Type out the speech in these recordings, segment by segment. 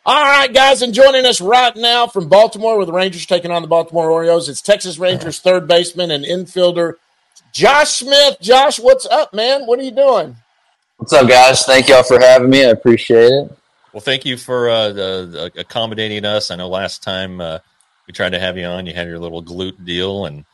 All right, guys, and joining us right now from Baltimore with the Rangers taking on the Baltimore Orioles, it's Texas Rangers third baseman and infielder Josh Smith. Josh, what's up, man? What are you doing? What's up, guys? Thank y'all for having me. I appreciate it. Well, thank you for accommodating us. I know last time we tried to have you on, you had your little glute deal, and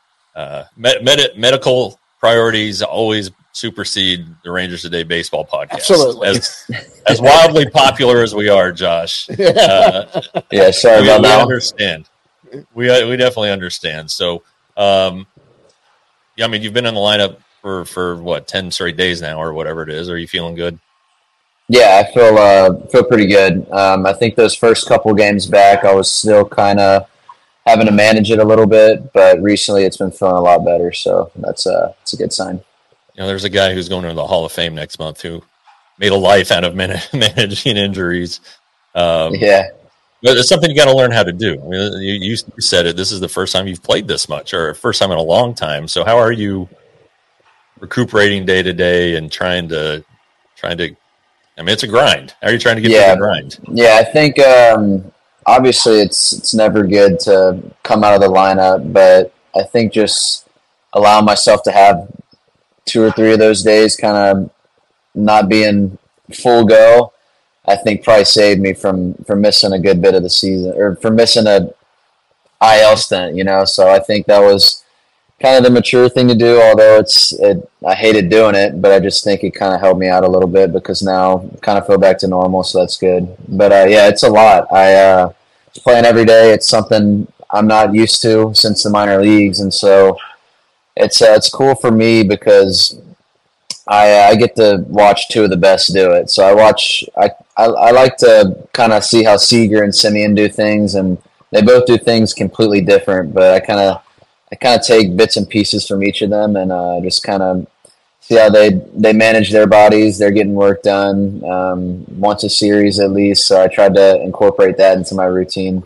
medical priorities always supersede the Rangers Today baseball podcast. Absolutely. As wildly popular as we are, Josh. Sorry about that. We understand. We definitely understand. So, you've been in the lineup for what, 10 straight days now or whatever it is. Are you feeling good? Yeah, I feel pretty good. I think those first couple games back, I was still kind of having to manage it a little bit, but recently it's been feeling a lot better. So it's a good sign. There's a guy who's going to the Hall of Fame next month who made a life out of managing injuries. But it's something you got to learn how to do. I mean, you said it. This is the first time you've played this much, or first time in a long time. So how are you recuperating day to day and trying to? I mean, it's a grind. How are you trying to get through the grind? Yeah, I think obviously it's never good to come out of the lineup, but I think just allowing myself to have 2 or 3 of those days kind of not being full go, I think probably saved me from missing a good bit of the season, or from missing a IL stint, So I think that was kind of the mature thing to do, although I hated doing it, but I just think it kind of helped me out a little bit because now I kind of feel back to normal, so that's good. But it's a lot. Playing every day, it's something I'm not used to since the minor leagues, and so it's cool for me because I get to watch 2 of the best do it. So I like to kind of see how Seager and Semien do things, and they both do things completely different, but I kind of take bits and pieces from each of them and just kind of see how they manage their bodies. They're getting work done once a series at least, so I tried to incorporate that into my routine.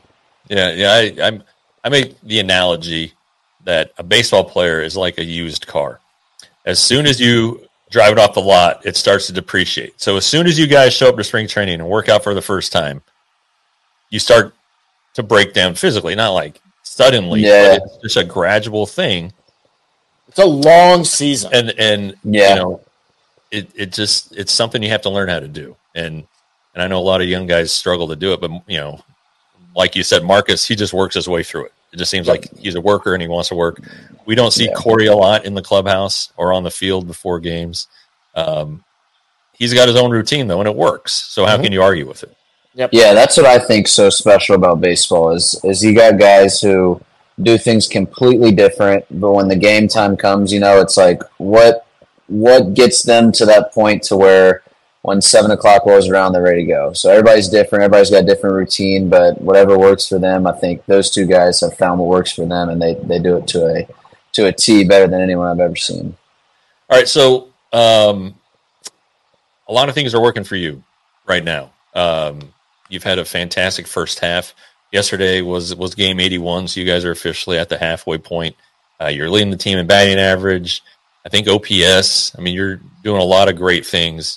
I make the analogy that a baseball player is like a used car. As soon as you drive it off the lot, it starts to depreciate. So as soon as you guys show up to spring training and work out for the first time, you start to break down physically, not like suddenly, but it's just a gradual thing. It's a long season. And it's something you have to learn how to do. And I know a lot of young guys struggle to do it, but like you said, Marcus, he just works his way through it. It just seems like he's a worker and he wants to work. We don't see Corey a lot in the clubhouse or on the field before games. He's got his own routine though, and it works. So how can you argue with it? Yep. Yeah, that's what I think so special about baseball is you got guys who do things completely different, but when the game time comes, it's like what gets them to that point to where when 7 o'clock rolls around, they're ready to go. So everybody's different. Everybody's got a different routine, but whatever works for them, I think those 2 guys have found what works for them, and they do it to a T better than anyone I've ever seen. All right, so a lot of things are working for you right now. You've had a fantastic first half. Yesterday was game 81, so you guys are officially at the halfway point. You're leading the team in batting average. I think OPS. I mean, you're doing a lot of great things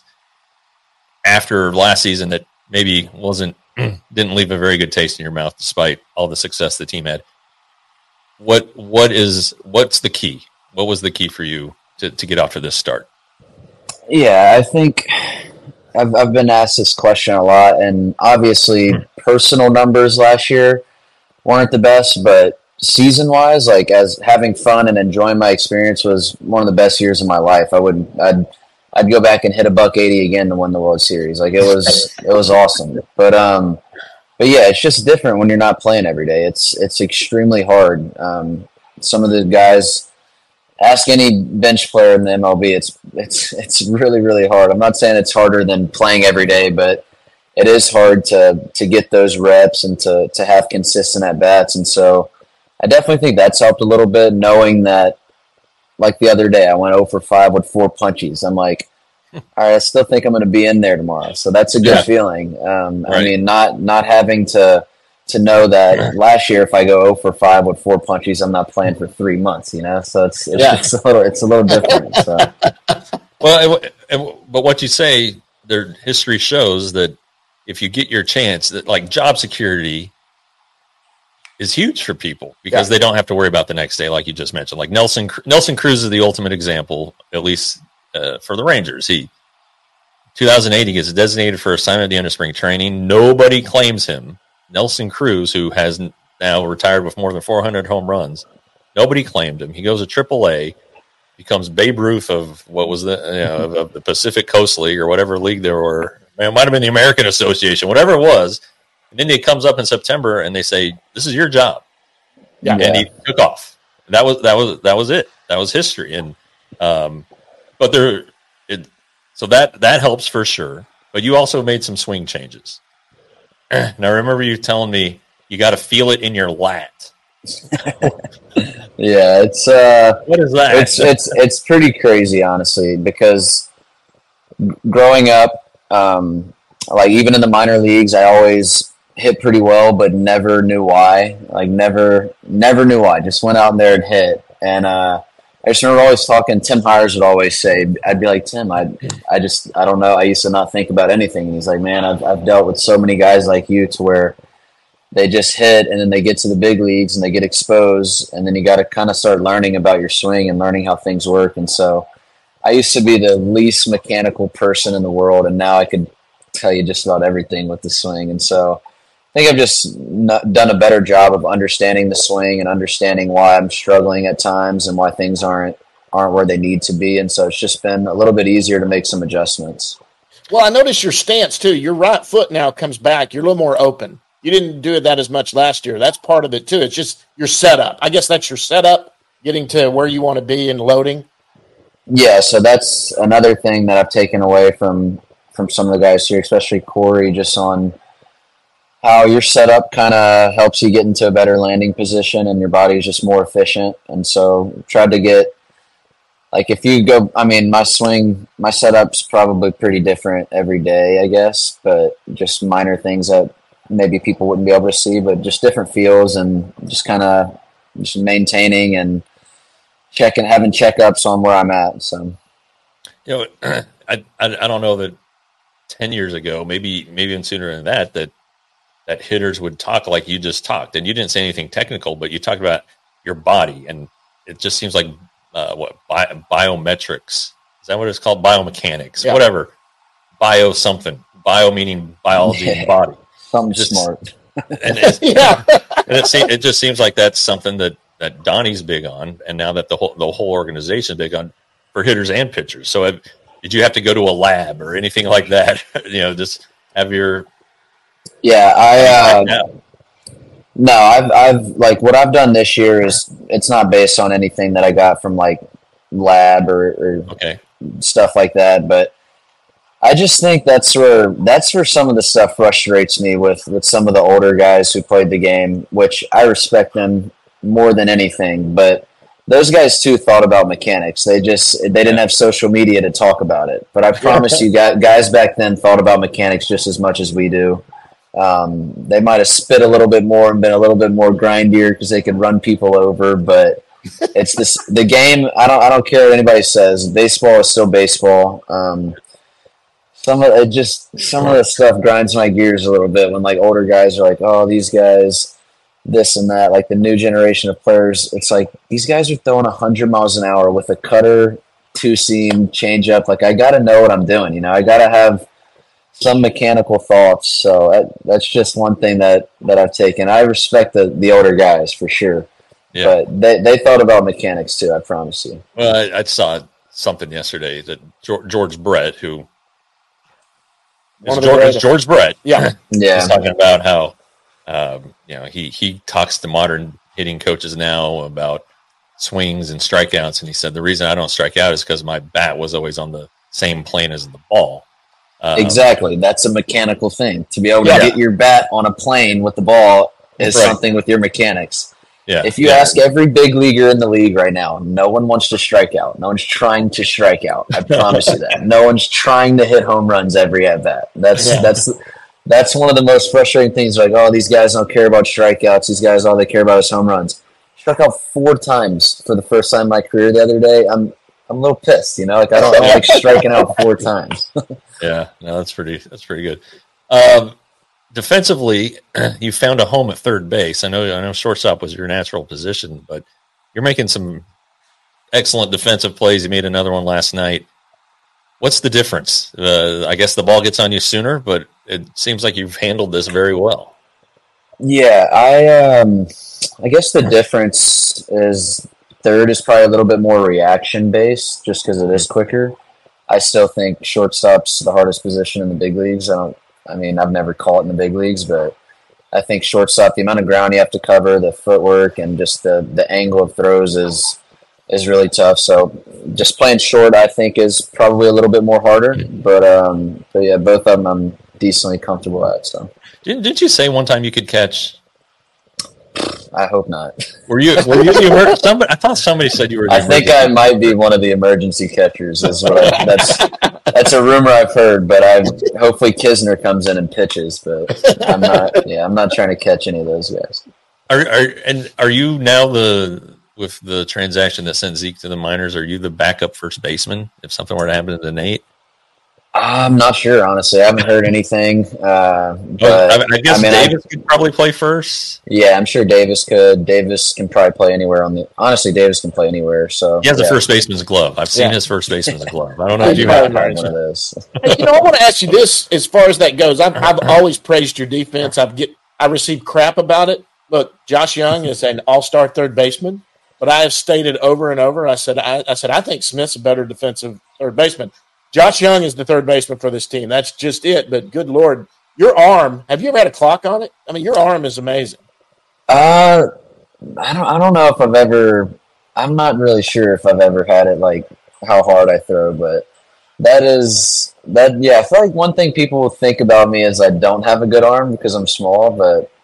after last season that maybe didn't leave a very good taste in your mouth despite all the success the team had. What's the key? What was the key for you to get off to this start? Yeah, I think I've been asked this question a lot, and obviously personal numbers last year weren't the best, but season-wise, like as having fun and enjoying my experience was one of the best years of my life. I'd go back and hit $180 again to win the World Series. Like it was awesome. But yeah, it's just different when you're not playing every day. It's extremely hard. Some of the guys, ask any bench player in the MLB, it's really, really hard. I'm not saying it's harder than playing every day, but it is hard to get those reps and to have consistent at bats. And so I definitely think that's helped a little bit, knowing that, like the other day, I went 0 for 5 with 4 punchies. I'm like, all right, I still think I'm going to be in there tomorrow. So that's a good feeling. Right. I mean, not having to know that last year, if I go 0 for 5 with 4 punchies, I'm not playing for 3 months, So it's a little different. So. Well, but what you say, their history shows that if you get your chance, that like job security is huge for people because they don't have to worry about the next day, like you just mentioned. Like Nelson Cruz is the ultimate example, at least for the Rangers. 2008, he gets designated for assignment at the end of spring training. Nobody claims him. Nelson Cruz, who has now retired with more than 400 home runs, nobody claimed him. He goes to AAA, becomes Babe Ruth of what was of the Pacific Coast League or whatever league there were. It might have been the American Association, whatever it was. And then he comes up in September and they say, "This is your job." Yeah. And he took off. That was it. That was history. And so that helps for sure. But you also made some swing changes. Now I remember you telling me you got to feel it in your lat. Yeah, it's what is that? It's pretty crazy, honestly, because growing up, like even in the minor leagues, I always hit pretty well, but never knew why. Like never knew why. Just went out there and hit. And I just remember always talking. Tim Hires would always say, I'd be like, Tim, I don't know. I used to not think about anything. And he's like, man, I've dealt with so many guys like you to where they just hit and then they get to the big leagues and they get exposed. And then you got to kind of start learning about your swing and learning how things work. And so I used to be the least mechanical person in the world. And now I could tell you just about everything with the swing. And so I think I've just done a better job of understanding the swing and understanding why I'm struggling at times and why things aren't where they need to be. And so it's just been a little bit easier to make some adjustments. Well, I noticed your stance too. Your right foot now comes back. You're a little more open. You didn't do that as much last year. That's part of it too. It's just your setup. I guess that's your setup, getting to where you want to be and loading. Yeah, so that's another thing that I've taken away from some of the guys here, especially Corey, just on how your setup kind of helps you get into a better landing position and your body is just more efficient. And so tried to get, like if you go, I mean, my setup's probably pretty different every day, I guess, but just minor things that maybe people wouldn't be able to see, but just different feels and just kind of just maintaining and having checkups on where I'm at. So, I don't know that 10 years ago, maybe even sooner than that hitters would talk like you just talked, and you didn't say anything technical, but you talked about your body, and it just seems like biometrics. Is that what it's called? Biomechanics, whatever. Bio meaning biology and body. Something smart. And it just seems like that's something that Donnie's big on, and now that the whole organization is big on for hitters and pitchers. So did you have to go to a lab or anything like that? Just have your No, I've like what I've done this year is it's not based on anything that I got from like lab or stuff like that, but I just think that's where some of the stuff frustrates me with some of the older guys who played the game, which I respect them more than anything, but those guys too thought about mechanics. They didn't have social media to talk about it, but I promise you guys back then thought about mechanics just as much as we do. They might have spit a little bit more and been a little bit more grindier because they could run people over, but it's the game. I don't care what anybody says. Baseball is still baseball. Some of the stuff grinds my gears a little bit when like older guys are like, oh, these guys, this and that, like the new generation of players. It's like these guys are throwing 100 miles an hour with a cutter, two-seam, change-up. Like I got to know what I'm doing. I got to have some mechanical thoughts. So that's just one thing that I've taken. I respect the older guys for sure. Yeah. But they thought about mechanics too, I promise you. Well, I saw something yesterday that George Brett, who is George Brett, was talking about how he talks to modern hitting coaches now about swings and strikeouts, and he said the reason I don't strike out is because my bat was always on the same plane as the ball. Exactly, that's a mechanical thing. To be able to get your bat on a plane with the ball is something with your mechanics. Yeah. If you ask every big leaguer in the league right now, no one wants to strike out. No one's trying to strike out. I promise you that. No one's trying to hit home runs every at bat. That's one of the most frustrating things. Like, oh, these guys don't care about strikeouts. These guys, all they care about is home runs. Struck out 4 times for the first time in my career the other day. I'm a little pissed. Like I don't like striking out 4 times. Yeah, no, that's pretty good. defensively, you found a home at third base. I know shortstop was your natural position, but you're making some excellent defensive plays. You made another one last night. What's the difference? I guess the ball gets on you sooner, but it seems like you've handled this very well. Yeah, I guess the difference is third is probably a little bit more reaction based, just because it is quicker. I still think shortstop's the hardest position in the big leagues. I've never caught in the big leagues, but I think shortstop, the amount of ground you have to cover, the footwork, and just the angle of throws is really tough. So just playing short, I think, is probably a little bit more harder. But yeah, both of them I'm decently comfortable at. So didn't you say one time you could catch? I hope not. Were you the somebody? I thought somebody said you were. I think I might be one of the emergency catchers. That's that's a rumor I've heard. But hopefully Kisner comes in and pitches. But I'm not. Yeah, I'm not trying to catch any of those guys. Are you now with the transaction that sent Zeke to the minors? Are you the backup first baseman if something were to happen to Nate? I'm not sure, honestly. I haven't heard anything. But I guess Davis could probably play first. Yeah, I'm sure Davis could. Davis can probably play anywhere honestly, Davis can play anywhere. So he has a first baseman's glove. I've seen his first baseman's glove. I don't know if you have one of those. Hey, I want to ask you this as far as that goes. I've always praised your defense. I received crap about it. Look, Josh Young is an all-star third baseman, but I have stated over and over, I said I think Smith's a better defensive third baseman. Josh Young is the third baseman for this team. That's just it. But good Lord, your arm, have you ever had a clock on it? I mean, your arm is amazing. I don't know if I'm not really sure if I've ever had it, like how hard I throw, but yeah, I feel like one thing people will think about me is I don't have a good arm because I'm small,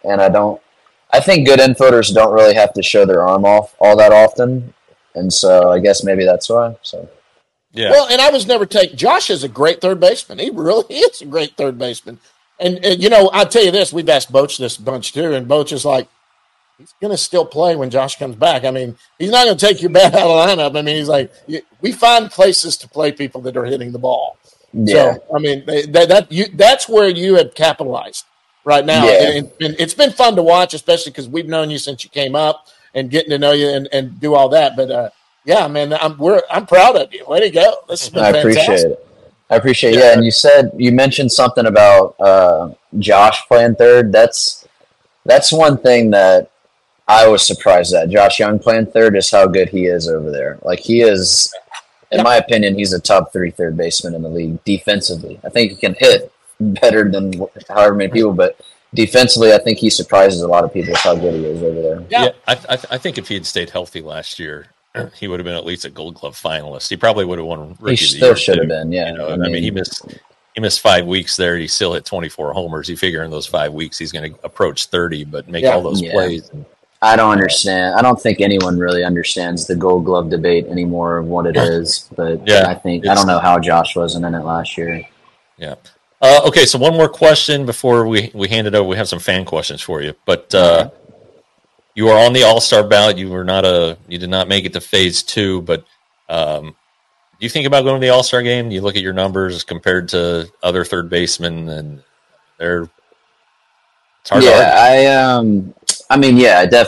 I think good infielders don't really have to show their arm off all that often. And so I guess maybe that's why. So. Yeah. Well, and I was never Josh is a great third baseman. He really is a great third baseman. And I'll tell you this, we've asked Boach this bunch too, and Boach is like, he's going to still play when Josh comes back. I mean, he's not going to take your bat out of the lineup. I mean, he's like, we find places to play people that are hitting the ball. Yeah. So, I mean, that's where you have capitalized right now. Yeah. And it's been fun to watch, especially because we've known you since you came up and getting to know you and do all that. But, yeah, man, I'm proud of you. Way to go! This has been fantastic. I appreciate it. Yeah, and you mentioned something about Josh playing third. That's one thing that I was surprised at. Josh Young playing third is how good he is over there. Like he is, in my opinion, he's a top 3 third baseman in the league defensively. I think he can hit better than however many people, but defensively, I think he surprises a lot of people with how good he is over there. Yeah, I think if he had stayed healthy last year, he would have been at least a Gold Glove finalist. He probably would have won Rookie of the Year. He still should have been, yeah. I mean, he missed 5 weeks there. He still hit 24 homers. You figure in those 5 weeks he's going to approach 30, but make all those plays. I don't understand. I don't think anyone really understands the Gold Glove debate anymore of what it is. But I don't know how Josh wasn't in it last year. Yeah. Okay, so one more question before we hand it over. We have some fan questions for you, but. You are on the All-Star ballot. You did not make it to phase 2, but do you think about going to the All-Star game? Do you look at your numbers compared to other third basemen, and it's hard to argue.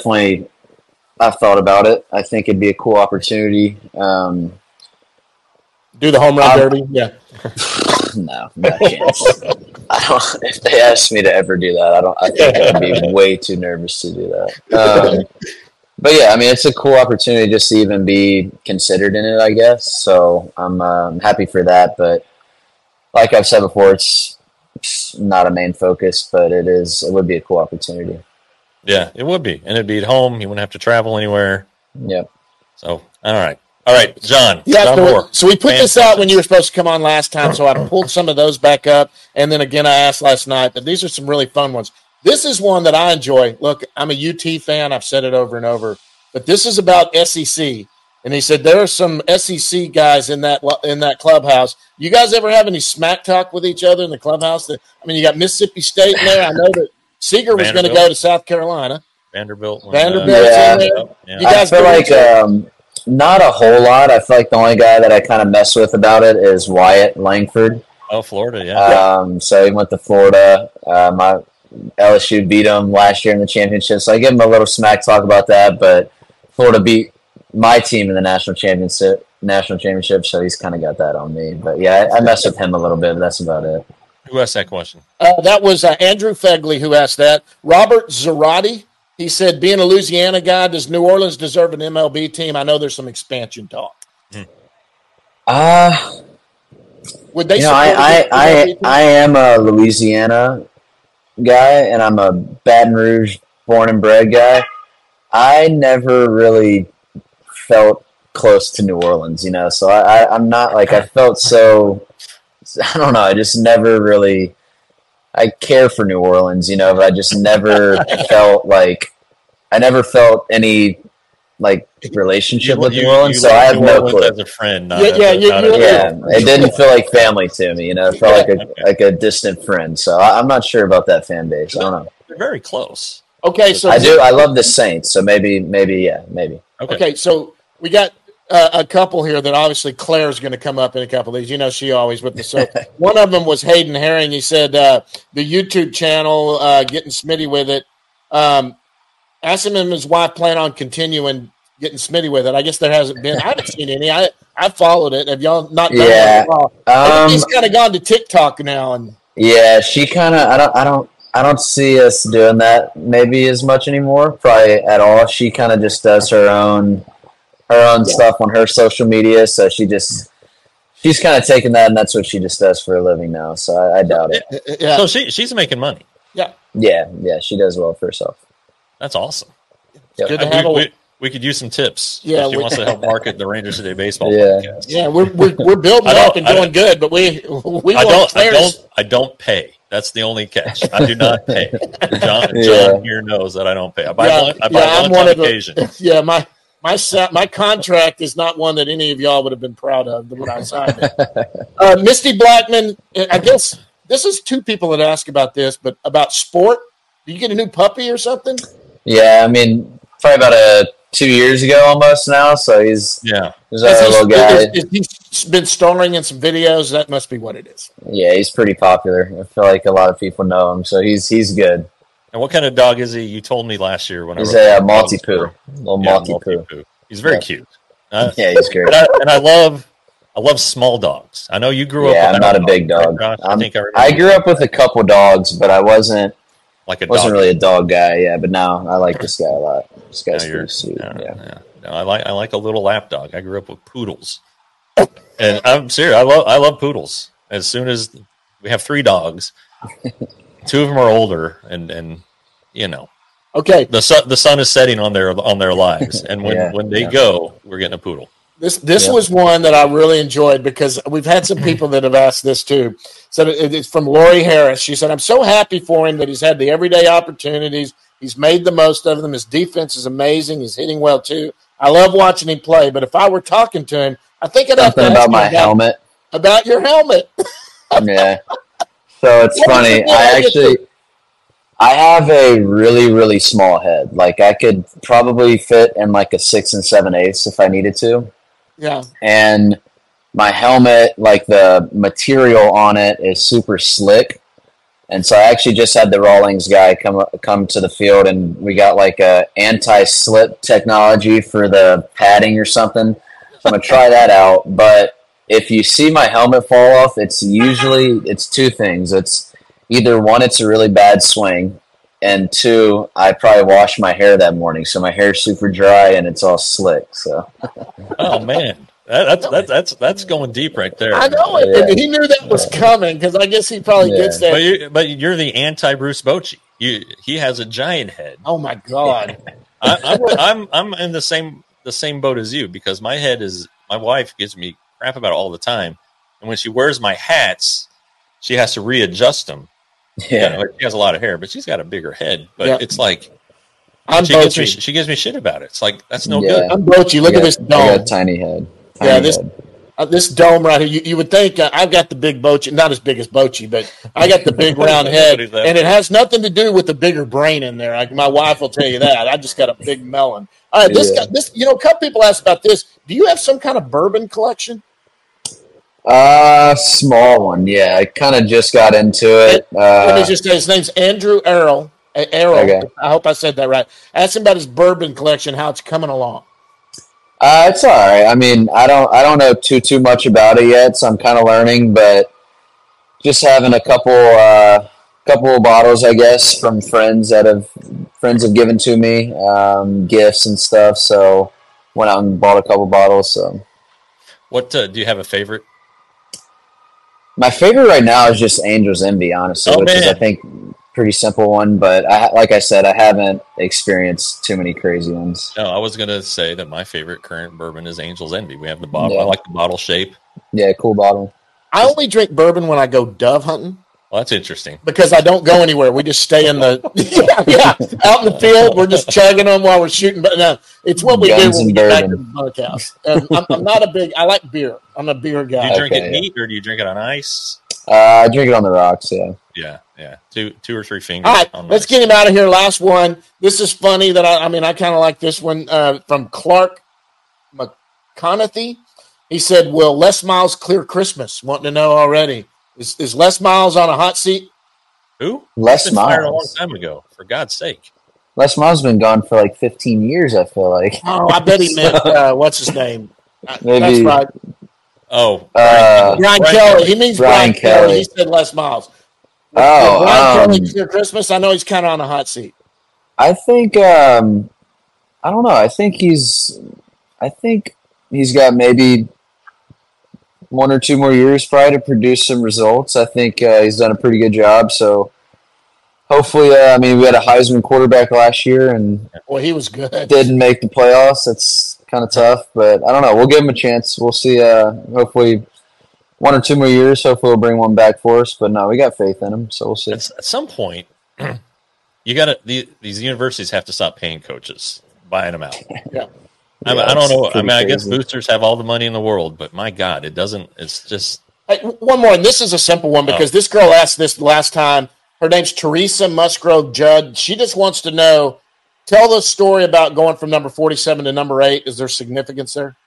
I've thought about it. I think it'd be a cool opportunity. Do the home run derby? Yeah. No chance. If they asked me to ever do that, I think I'd be way too nervous to do that. But yeah, I mean, it's a cool opportunity just to even be considered in it, I guess. So I'm happy for that. But like I've said before, it's not a main focus, but it would be a cool opportunity. Yeah, it would be. And it'd be at home. You wouldn't have to travel anywhere. Yep. So, all right, John. Yeah, so we put this out when you were supposed to come on last time, so I pulled some of those back up, and then again I asked last night, but these are some really fun ones. This is one that I enjoy. Look, I'm a UT fan. I've said it over and over, but this is about SEC, and he said there are some SEC guys in that clubhouse. You guys ever have any smack talk with each other in the clubhouse? You got Mississippi State in there. I know that Seeger was going to go to South Carolina. Vanderbilt's in there. Yeah. You guys feel like not a whole lot. I feel like the only guy that I kind of mess with about it is Wyatt Langford. Oh, Florida, yeah. So he went to Florida. LSU beat them last year in the championship, so I give him a little smack talk about that. But Florida beat my team in the national championship, so he's kind of got that on me. But yeah, I mess with him a little bit, but that's about it. Who asked that question? That was Andrew Fegley who asked that. Robert Zarati, he said, being a Louisiana guy, does New Orleans deserve an MLB team? I know there's some expansion talk. Would they? I am a Louisiana guy, and I'm a Baton Rouge born and bred guy. I never really felt close to New Orleans, so I'm not like, I felt so, I don't know, I just never really, I care for New Orleans, but I just never felt like, I never felt any like relationship with New Orleans, so I have no clue. As a friend, it didn't feel like family to me, it felt like a distant friend, so I'm not sure about that fan base. I don't know. They're very close. Okay, so I love the Saints, so maybe. Okay, so we got a couple here that obviously Claire's going to come up in a couple of these. She always with the so. One of them was Hayden Herring. He said the YouTube channel, getting Smitty with it. Asked him and his wife plan on continuing getting Smitty with it. I guess there hasn't been. I haven't seen any. I followed it. Have y'all not done it? I think he's kind of gone to TikTok now. And yeah, she kind of. I don't see us doing that maybe as much anymore. Probably at all. She kind of just does her own stuff on her social media. So she's kind of taken that, and that's what she just does for a living now. So I doubt it. Yeah. So she's making money. Yeah. She does well for herself. That's awesome. Yep. Good to have we could use some tips. Yeah, she wants to help market the Rangers Today baseball podcast. Yeah, we're building up and doing good, but we I don't pay. That's the only catch. I do not pay. John here knows that I don't pay. I buy lunch on occasion. Yeah, my contract is not one that any of y'all would have been proud of when I signed it. Misty Blackman, I guess this is two people that ask about this, but about sport. Do you get a new puppy or something? Yeah, I mean, probably about 2 years ago almost now. So he's our little guy. He's been starring in some videos. That must be what it is. Yeah, he's pretty popular. I feel like a lot of people know him, so he's good. And what kind of dog is he? You told me last year when he's a Maltipoo, little Maltipoo. He's very cute. Yeah, he's great. And I love small dogs. I know you grew up. Yeah, I'm not a big dog. I grew up with a couple dogs, but I wasn't really a dog guy. Yeah, but now I like this guy a lot. This guy's pretty sweet. Yeah. No, I like a little lap dog. I grew up with poodles, and I'm serious. I love poodles. As soon as we have 3 dogs, 2 of them are older, and okay, the sun is setting on their lives, and when they go, we're getting a poodle. This was one that I really enjoyed because we've had some people that have asked this too. So it's from Lori Harris. She said, I'm so happy for him that he's had the everyday opportunities. He's made the most of them. His defense is amazing. He's hitting well too. I love watching him play, but if I were talking to him, I think I'd have to ask about my helmet. About your helmet. Yeah. So it's funny. I have a really, really small head. Like I could probably fit in like a 6 7/8 if I needed to. Yeah. And my helmet, like the material on it is super slick. And so I actually just had the Rawlings guy come to the field, and we got like a anti-slip technology for the padding or something. So I'm going to try that out. But if you see my helmet fall off, it's 2 things. It's either 1, it's a really bad swing, and 2, I probably washed my hair that morning, so my hair's super dry and it's all slick. So, oh man, that's going deep right there. I know it. Yeah. He knew that was coming because I guess he probably gets that. But you're the anti-Bruce Bochy. He has a giant head. Oh my god, I'm in the same boat as you because my wife gives me crap about it all the time, and when she wears my hats, she has to readjust them. Yeah, she has a lot of hair, but she's got a bigger head. But it's like she gives me shit about it. It's like that's no good. I'm Bochy. Look at this dome. I got a tiny head. This dome right here. You would think I've got the big Bochy, not as big as Bochy, but I got the big round head, and it has nothing to do with the bigger brain in there. Like my wife will tell you that. I just got a big melon. All right, a couple people asked about this. Do you have some kind of bourbon collection? Small one. Yeah, I kind of just got into it. Let me just say his name's Andrew Errol. Errol. Okay. I hope I said that right. Ask him about his bourbon collection, how it's coming along. It's all right. I mean, I don't know too much about it yet, so I'm kind of learning. But just having a couple of bottles, I guess, from friends have given to me, gifts and stuff. So went out and bought a couple bottles. So, What do you have a favorite? my favorite right now is just Angel's Envy, honestly, Oh, which is, I man. think, pretty simple one. But like I said, I haven't experienced too many crazy ones. No, I was gonna say that my favorite current bourbon is Angel's Envy. We have the bottle. Yeah. I like the bottle shape. Yeah, cool bottle. I only drink bourbon when I go dove hunting Well, that's interesting. because I don't go anywhere. We just stay in the out in the field. We're just chugging them while we're shooting. But no, it's what we Guns do when we and get back to bourbon. the bunkhouse. I'm not a big. I like beer. I'm a beer Do you guy. drink Okay, it yeah. neat or do you drink it on ice? I drink it on the rocks. Yeah. Yeah. Two or three fingers. All right, on let's ice. get him out of here. Last one. This is funny that I kind of like this one from Clark McConaughey. He said, "Will Les Miles clear Christmas?" Wanting to know already. Is Les Miles on a hot seat? Who? Les He's been fired a long Miles. time ago. For God's sake. Les Miles been gone for like 15 years, I feel like. Oh, I bet he meant what's his name? Maybe- That's right, Oh, Uh, Brian Brian Kelly. Kelly. He means Brian Brian Kelly. Kelly. He said Les Miles. Oh, Will Brian Kelly clear Christmas? I know he's kind of on a hot seat. I think I don't know. I think he's got maybe 1 or 2 more years probably to produce some results. I think he's done a pretty good job. So hopefully, I mean, we had a Heisman quarterback last year and Well, he was good. didn't make the playoffs. That's kind of tough, but I don't know. We'll give him a chance. We'll see. Hopefully, 1 or 2 more years. Hopefully, we'll bring one back for us. But no, we got faith in him, so we'll see. at some point, you got to these universities have to stop paying coaches, buying them out. Yeah. I Yeah, don't it's know. I pretty mean, I guess crazy. boosters have all the money in the world, but my God, it doesn't. It's just Hey, one more, and this is a simple one because this girl asked this last time. Her name's Teresa Musgrove Judd. She just wants to know, tell the story about going from number 47 to number 8. Is there significance there?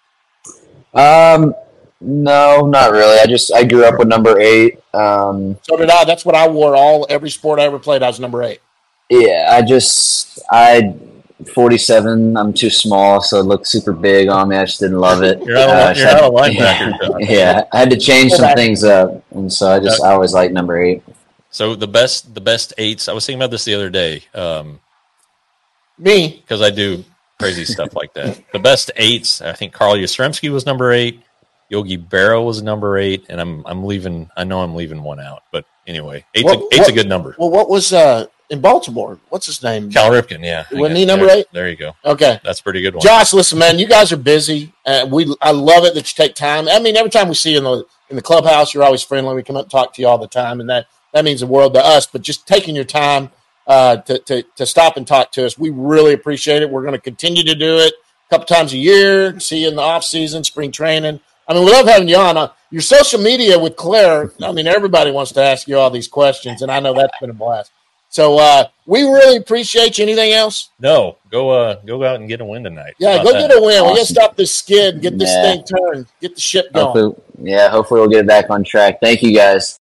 No, not really. I grew up with number 8. So did I. That's what I wore every sport I ever played. I was number 8. Yeah, I 47. I'm too small, so it looked super big on me. I just didn't love it. you're not a linebacker. John. Yeah, I had to change some things up, and so I always liked number 8. So the best eights. I was thinking about this the other day Me. because I do crazy stuff like that. The best eights. I think Carl Yastrzemski was number 8. Yogi Berra was number 8, and I'm leaving. I know I'm leaving one out, but anyway, eight's a good number. Well, what was in Baltimore? What's his name? Cal Ripken, yeah. Wasn't he number There- 8? There you go. Okay. That's a pretty good one. Josh, listen, man, you guys are busy. I love it that you take time. I mean, every time we see you in the clubhouse, you're always friendly. We come up and talk to you all the time, and that means the world to us. But just taking your time to stop and talk to us, we really appreciate it. We're going to continue to do it a couple times a year. See you in the off season, spring training. I mean, we love having you on. Your social media with Claire. I mean, everybody wants to ask you all these questions, and I know that's been a blast. So we really appreciate you. Anything else? No, go out and get a win tonight. Yeah, How go about get that? a win. We got to Awesome. stop this skid, get this Yeah. thing turned, get the ship going. Hopefully we'll get it back on track. Thank you, guys.